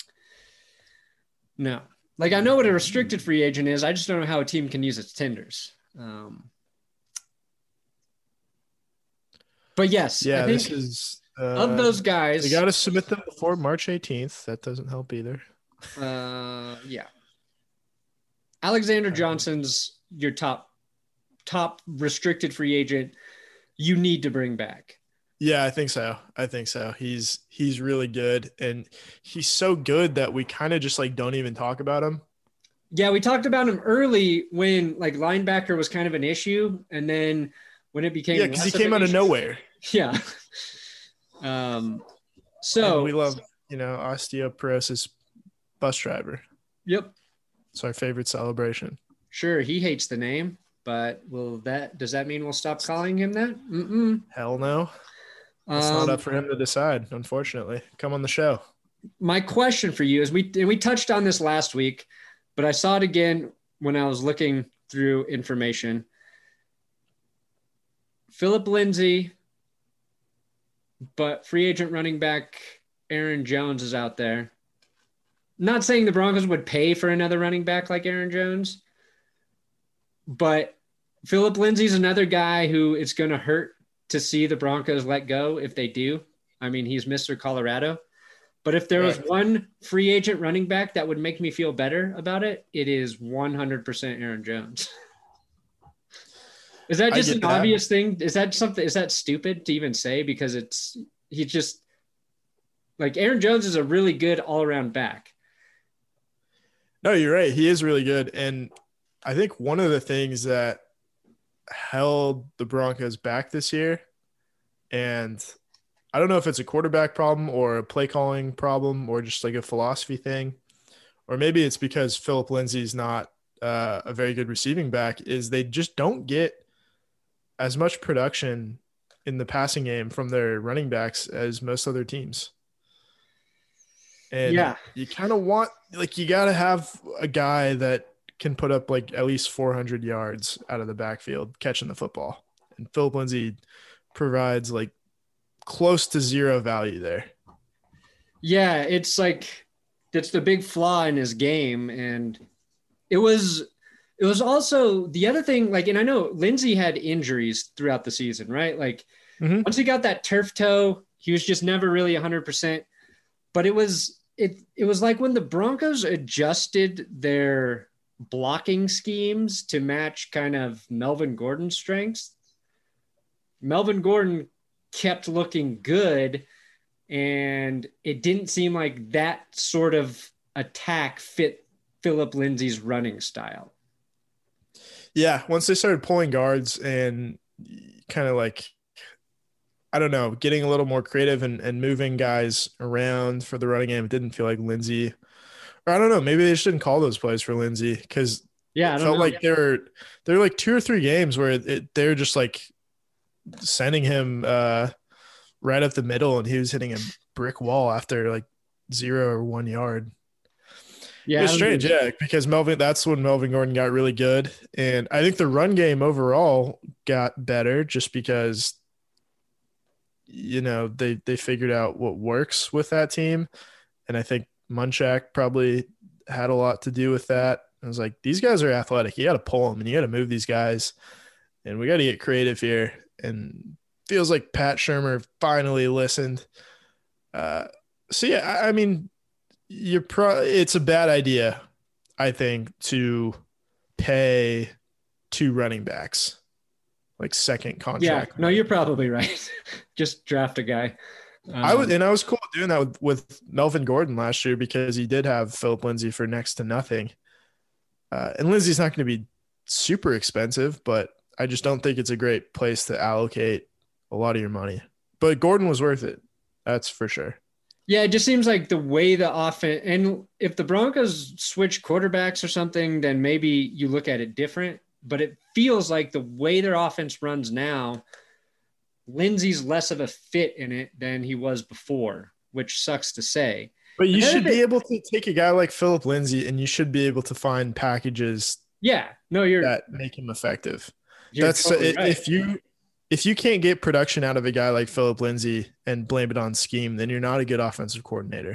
No. Like I know what a restricted free agent is. I just don't know how a team can use its tenders. Um, but yes, Yeah, I think this is uh, of those guys. You got to submit them before March eighteenth. That doesn't help either. Uh, yeah. Alexander Johnson's your top top restricted free agent. You need to bring back. Yeah, I think so. I think so. He's he's really good, and he's so good that we kind of just like don't even talk about him. Yeah, we talked about him early when like linebacker was kind of an issue, and then when it became Yeah, because he less of came an out of issue- nowhere. Yeah. Um. So And we love, you know, osteoporosis bus driver. Yep. It's our favorite celebration. Sure, he hates the name, but will that does that mean we'll stop calling him that? Mm-mm. Hell no. It's Um, not up for him to decide, unfortunately. Come on the show. My question for you is we and we touched on this last week, but I saw it again when I was looking through information. Philip Lindsay, but free agent running back Aaron Jones is out there. Not saying the Broncos would pay for another running back like Aaron Jones, but Philip Lindsay's another guy who it's going to hurt to see the Broncos let go if they do. I mean, he's Mister Colorado. But if there was Right. one free agent running back that would make me feel better about it, it is one hundred percent Aaron Jones. Is that I just get an that. obvious thing? Is that something, is that stupid to even say? Because it's, he just, like Aaron Jones is a really good all around back. No, you're right. He is really good. And I think one of the things that held the Broncos back this year, and I don't know if it's a quarterback problem or a play calling problem or just like a philosophy thing, or maybe it's because Philip Lindsay's not uh, a very good receiving back is they just don't get as much production in the passing game from their running backs as most other teams. And Yeah. you kind of want, like, you got to have a guy that can put up like at least four hundred yards out of the backfield catching the football. And Philip Lindsay provides like close to zero value there. Yeah, it's like that's the big flaw in his game. And it was it was also the other thing, like, and I know Lindsay had injuries throughout the season, right? Like mm-hmm. once he got that turf toe, he was just never really one hundred percent. But it was it it was like when the Broncos adjusted their blocking schemes to match kind of Melvin Gordon's strengths. Melvin Gordon kept looking good, and it didn't seem like that sort of attack fit Philip Lindsay's running style. Yeah, once they started pulling guards and kind of like, I don't know, getting a little more creative and, and moving guys around for the running game, it didn't feel like Lindsay, or I don't know, maybe they just didn't call those plays for Lindsay because yeah, it felt know. like there were there were like two or three games where it, they're just like sending him uh, right up the middle, and he was hitting a brick wall after like zero or one yard. Yeah, it's strange, yeah, because Melvin, that's when Melvin Gordon got really good. And I think the run game overall got better just because, you know, they, they figured out what works with that team. And I think Munchak probably had a lot to do with that. I was like, these guys are athletic. You got to pull them and you got to move these guys. And we got to get creative here. And feels like Pat Shurmur finally listened. Uh, so, yeah, I, I mean, You're pro- it's a bad idea, I think, to pay two running backs like second contract. Yeah, no, you're probably right. Just draft a guy. Um, I was and I was cool doing that with, with Melvin Gordon last year because he did have Philip Lindsay for next to nothing. Uh, and Lindsay's not going to be super expensive, but I just don't think it's a great place to allocate a lot of your money. But Gordon was worth it. That's for sure. Yeah, it just seems like the way the offense, and if the Broncos switch quarterbacks or something, then maybe you look at it different. But it feels like the way their offense runs now, Lindsay's less of a fit in it than he was before, which sucks to say. But you should be able to take a guy like Philip Lindsay, and you should be able to find packages. Yeah, no, you're that make him effective. You're That's totally right. if you. If you can't get production out of a guy like Philip Lindsay and blame it on scheme, then you're not a good offensive coordinator.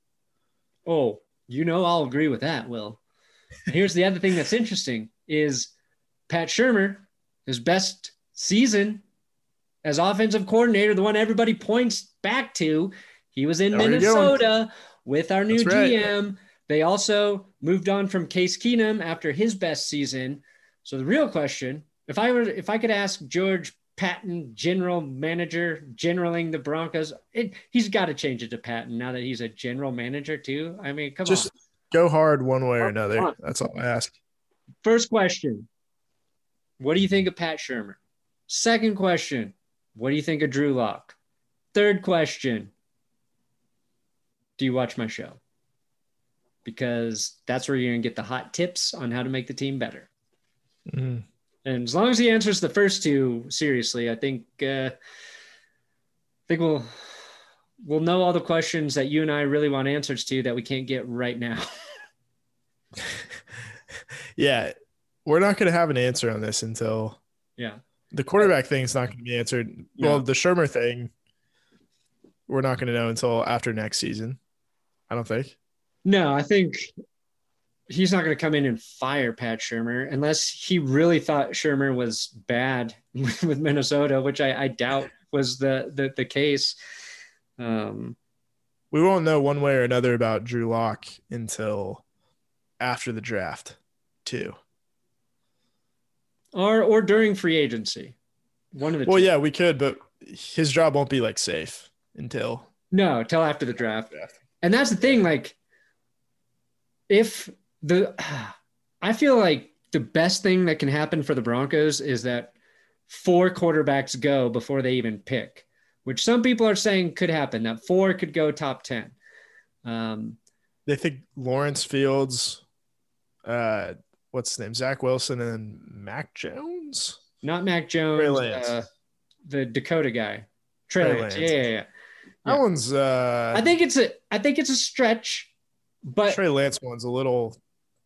Oh, you know, I'll agree with that, Will. Here's the other thing that's interesting is Pat Shurmur, his best season as offensive coordinator, the one everybody points back to, he was in There Minnesota with our new That's right. G M. They also moved on from Case Keenum after his best season. So the real question, if I were, if I could ask George Patton, general manager, generaling the Broncos, it, he's got to change it to Patton now that he's a general manager too. I mean, come Just on. Just go hard one way or another. That's all I ask. First question, what do you think of Pat Shurmur? Second question, what do you think of Drew Lock? Third question, do you watch my show? Because that's where you're going to get the hot tips on how to make the team better. Mm-hmm. And as long as he answers the first two seriously, I think uh, I think we'll we'll know all the questions that you and I really want answers to that we can't get right now. Yeah, we're not going to have an answer on this until yeah the quarterback thing is not going to be answered. No. Well, the Shurmur thing, we're not going to know until after next season. I don't think. No, I think he's not going to come in and fire Pat Shurmur unless he really thought Shurmur was bad with Minnesota, which I, I doubt was the, the, the case. Um, we won't know one way or another about Drew Lock until after the draft too. Or, or during free agency. One of the Well, two. yeah, we could, but his job won't be like safe until. No, till after the draft. And that's the thing. Like if, The I feel like the best thing that can happen for the Broncos is that four quarterbacks go before they even pick, which some people are saying could happen, that four could go top ten. Um, they think Lawrence Fields, uh, what's his name? Zach Wilson and Mac Jones. Not Mac Trey Jones, Lance. uh, the Dakota guy. Trey, Trey Lance. Lance. Yeah, yeah, yeah. That Yeah. one's. Uh, I think it's a. I think it's a stretch, but Trey Lance one's a little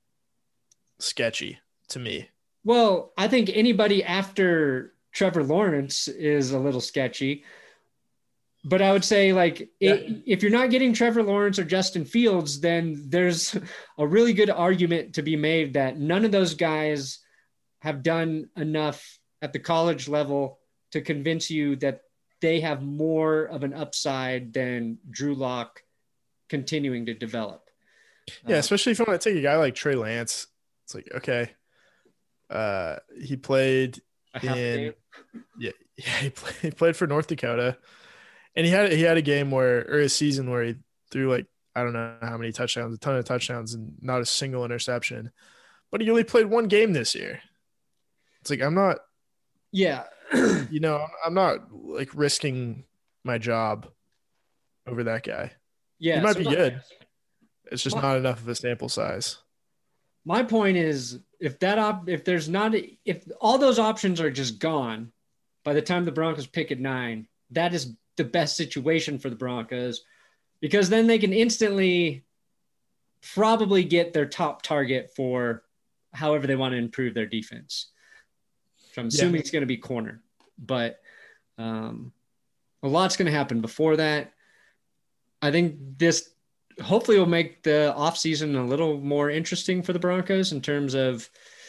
sketchy to me. well, I think anybody after Trevor Lawrence is a little sketchy. But I would say, like, Yeah. it, if you're not getting Trevor Lawrence or Justin Fields, then there's a really good argument to be made that none of those guys have done enough at the college level to convince you that they have more of an upside than Drew Lock continuing to develop. Yeah, Uh, especially if you want to take a guy like Trey Lance. It's like, okay, uh, he played a half a in game. yeah, yeah he, played, he played for North Dakota, and he had he had a game where or a season where he threw like I don't know how many touchdowns, a ton of touchdowns, and not a single interception. But he only played one game this year. It's like I'm not, Yeah. you know, I'm not like risking my job over that guy. Yeah. He might so be my- good. It's just My- not enough of a sample size. My point is, if that op, if there's not, if all those options are just gone by the time the Broncos pick at nine, that is the best situation for the Broncos, because then they can instantly probably get their top target for however they want to improve their defense. So I'm assuming Yeah. it's going to be corner, but um, a lot's going to happen before that. I think this hopefully will make the offseason a little more interesting for the Broncos in terms of,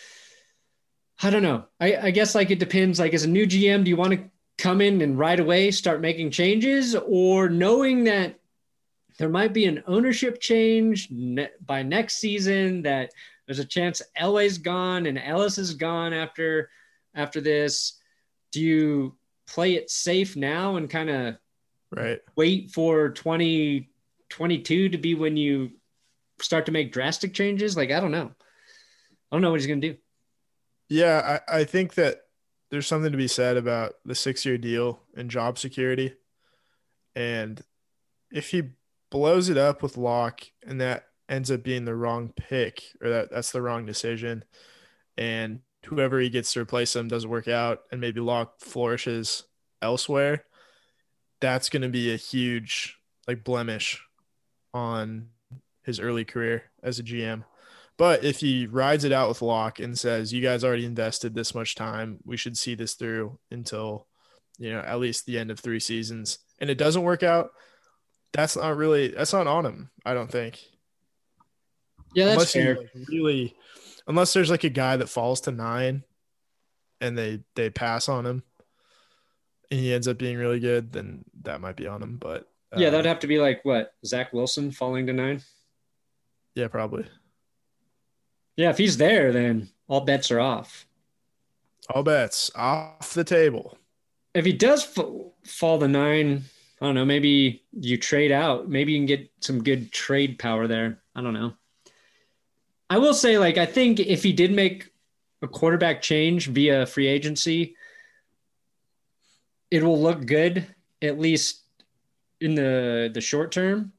I don't know. I, I guess like it depends. Like as a new G M, do you want to come in and right away start making changes, or knowing that there might be an ownership change ne- by next season, that there's a chance Elway's gone and Ellis is gone after, after this? Do you play it safe now and kind of Right. wait for twenty twenty-two to be when you start to make drastic changes? Like, I don't know. I don't know what he's going to do. Yeah, I, I think that there's something to be said about the six-year deal and job security. And if he blows it up with Locke and that ends up being the wrong pick, or that that's the wrong decision, and whoever he gets to replace him doesn't work out and maybe Locke flourishes elsewhere, that's going to be a huge like blemish on his early career as a G M. But if he rides it out with Locke and says, you guys already invested this much time, we should see this through until, you know, at least the end of three seasons, and it doesn't work out, that's not really, that's not on him, I don't think. Yeah, that's unless fair. you like really, unless there's like a guy that falls to nine and they, they pass on him and he ends up being really good, then that might be on him. But Yeah, um, that'd have to be like what, Zach Wilson falling to nine? yeah, probably. Yeah, if he's there, then all bets are off. All bets off the table. If he does f- fall to nine, I don't know, maybe you trade out. Maybe you can get some good trade power there. I don't know. I will say, like, I think if he did make a quarterback change via free agency, it will look good, at least in the, the short term.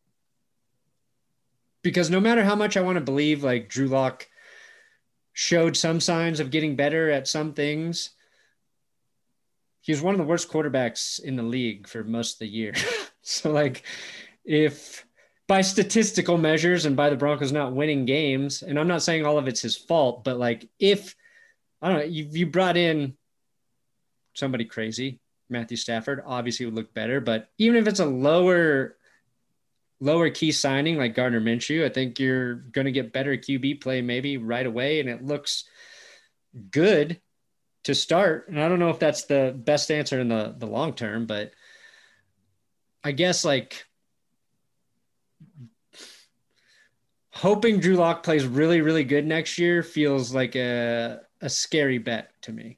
Because no matter how much I want to believe, like, Drew Lock showed some signs of getting better at some things, he was one of the worst quarterbacks in the league for most of the year. So, like, if by statistical measures and by the Broncos not winning games, and I'm not saying all of it's his fault, but, like, if, I don't know, you, you brought in somebody crazy, Matthew Stafford, obviously would look better. But even if it's a lower lower key signing like Gardner Minshew, I think you're going to get better Q B play maybe right away, and it looks good to start. And I don't know if that's the best answer in the, the long term, but I guess like hoping Drew Lock plays really, really good next year feels like a, a scary bet to me.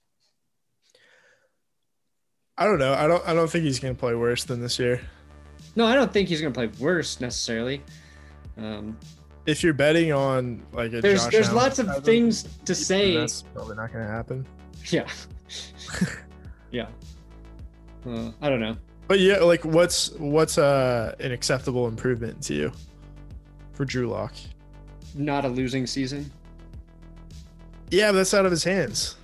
I don't know. I don't. I don't think he's going to play worse than this year. No, I don't think he's going to play worse necessarily. Um, If you're betting on like a there's Josh there's Allen lots of type things to then say. that's probably not going to happen. Yeah. Yeah. Uh, I don't know. But yeah, like what's what's uh an acceptable improvement to you for Drew Lock? Not a losing season. Yeah, but that's out of his hands,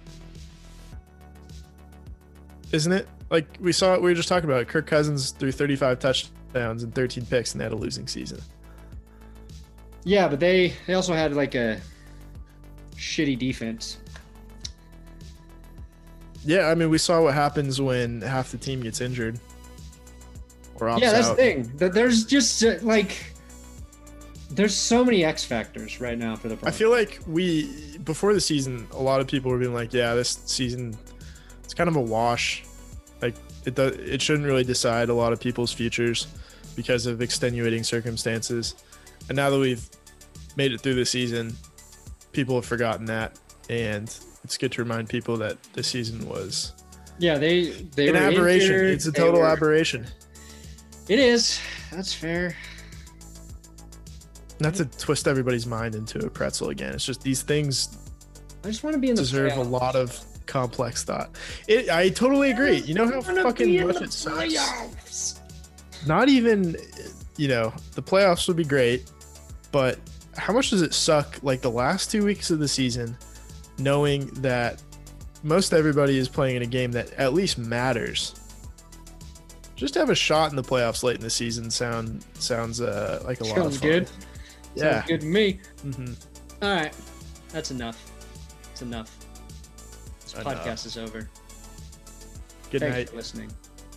isn't it? Like we saw it. We were just talking about it. Kirk Cousins threw thirty-five touchdowns and thirteen picks, and they had a losing season. Yeah, but they they also had like a shitty defense. Yeah, I mean, we saw what happens when half the team gets injured or opts Yeah, that's out. the thing. That there's just uh, like there's so many X factors right now for the I Broncos. feel like we before the season, a lot of people were being like, "Yeah, this season it's kind of a wash. Like it does, it shouldn't really decide a lot of people's futures because of extenuating circumstances." And now that we've made it through the season, people have forgotten that, and it's good to remind people that this season was Yeah, they they an were aberration. injured, It's a they total were- aberration. It is. That's fair. Not to twist everybody's mind into a pretzel again. It's just these things I just want to be in the deserve a playoffs. lot of complex thought. It, I totally agree. You know how I wanna fucking be in much the it sucks. playoffs. Not even, you know, the playoffs would be great, but how much does it suck? Like the last two weeks of the season, knowing that most everybody is playing in a game that at least matters. Just to have a shot in the playoffs late in the season sound sounds uh, like a lot of Sounds fun. good. Yeah. Sounds good to me. Mm-hmm. All right, that's enough. It's enough. This Enough. podcast is over. Good Thanks night. for listening.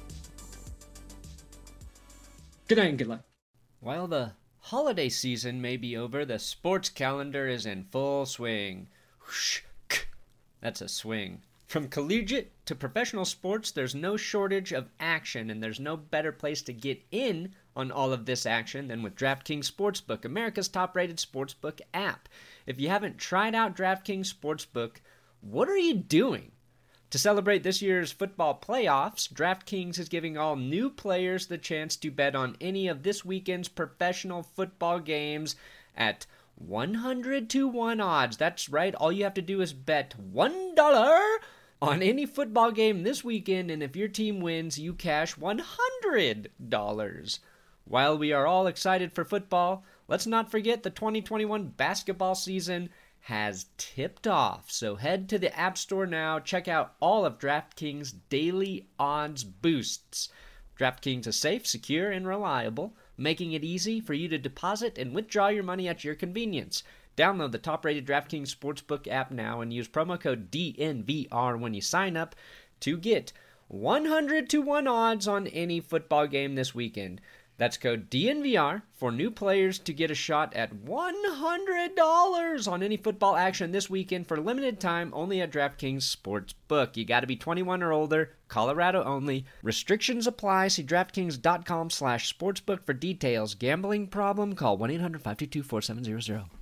Good night and good luck. While the holiday season may be over, the sports calendar is in full swing. Whoosh, k. That's a swing. From collegiate to professional sports, there's no shortage of action, and there's no better place to get in on all of this action than with DraftKings Sportsbook, America's top-rated sportsbook app. If you haven't tried out DraftKings Sportsbook, what are you doing? To celebrate this year's football playoffs, DraftKings is giving all new players the chance to bet on any of this weekend's professional football games at one hundred to one odds. That's right, all you have to do is bet one dollar on any football game this weekend, and if your team wins, you cash one hundred dollars. While we are all excited for football, let's not forget the twenty twenty-one basketball season has tipped off. So head to the App Store now, check out all of DraftKings' daily odds boosts. DraftKings is safe, secure, and reliable, making it easy for you to deposit and withdraw your money at your convenience. Download the top-rated DraftKings Sportsbook app now and use promo code D N V R when you sign up to get one hundred to one odds on any football game this weekend. That's code D N V R for new players to get a shot at one hundred dollars on any football action this weekend for limited time only at DraftKings Sportsbook. You got to be twenty-one or older, Colorado only. Restrictions apply. See DraftKings.com slash sportsbook for details. Gambling problem? Call one eight hundred five two two four seven zero zero.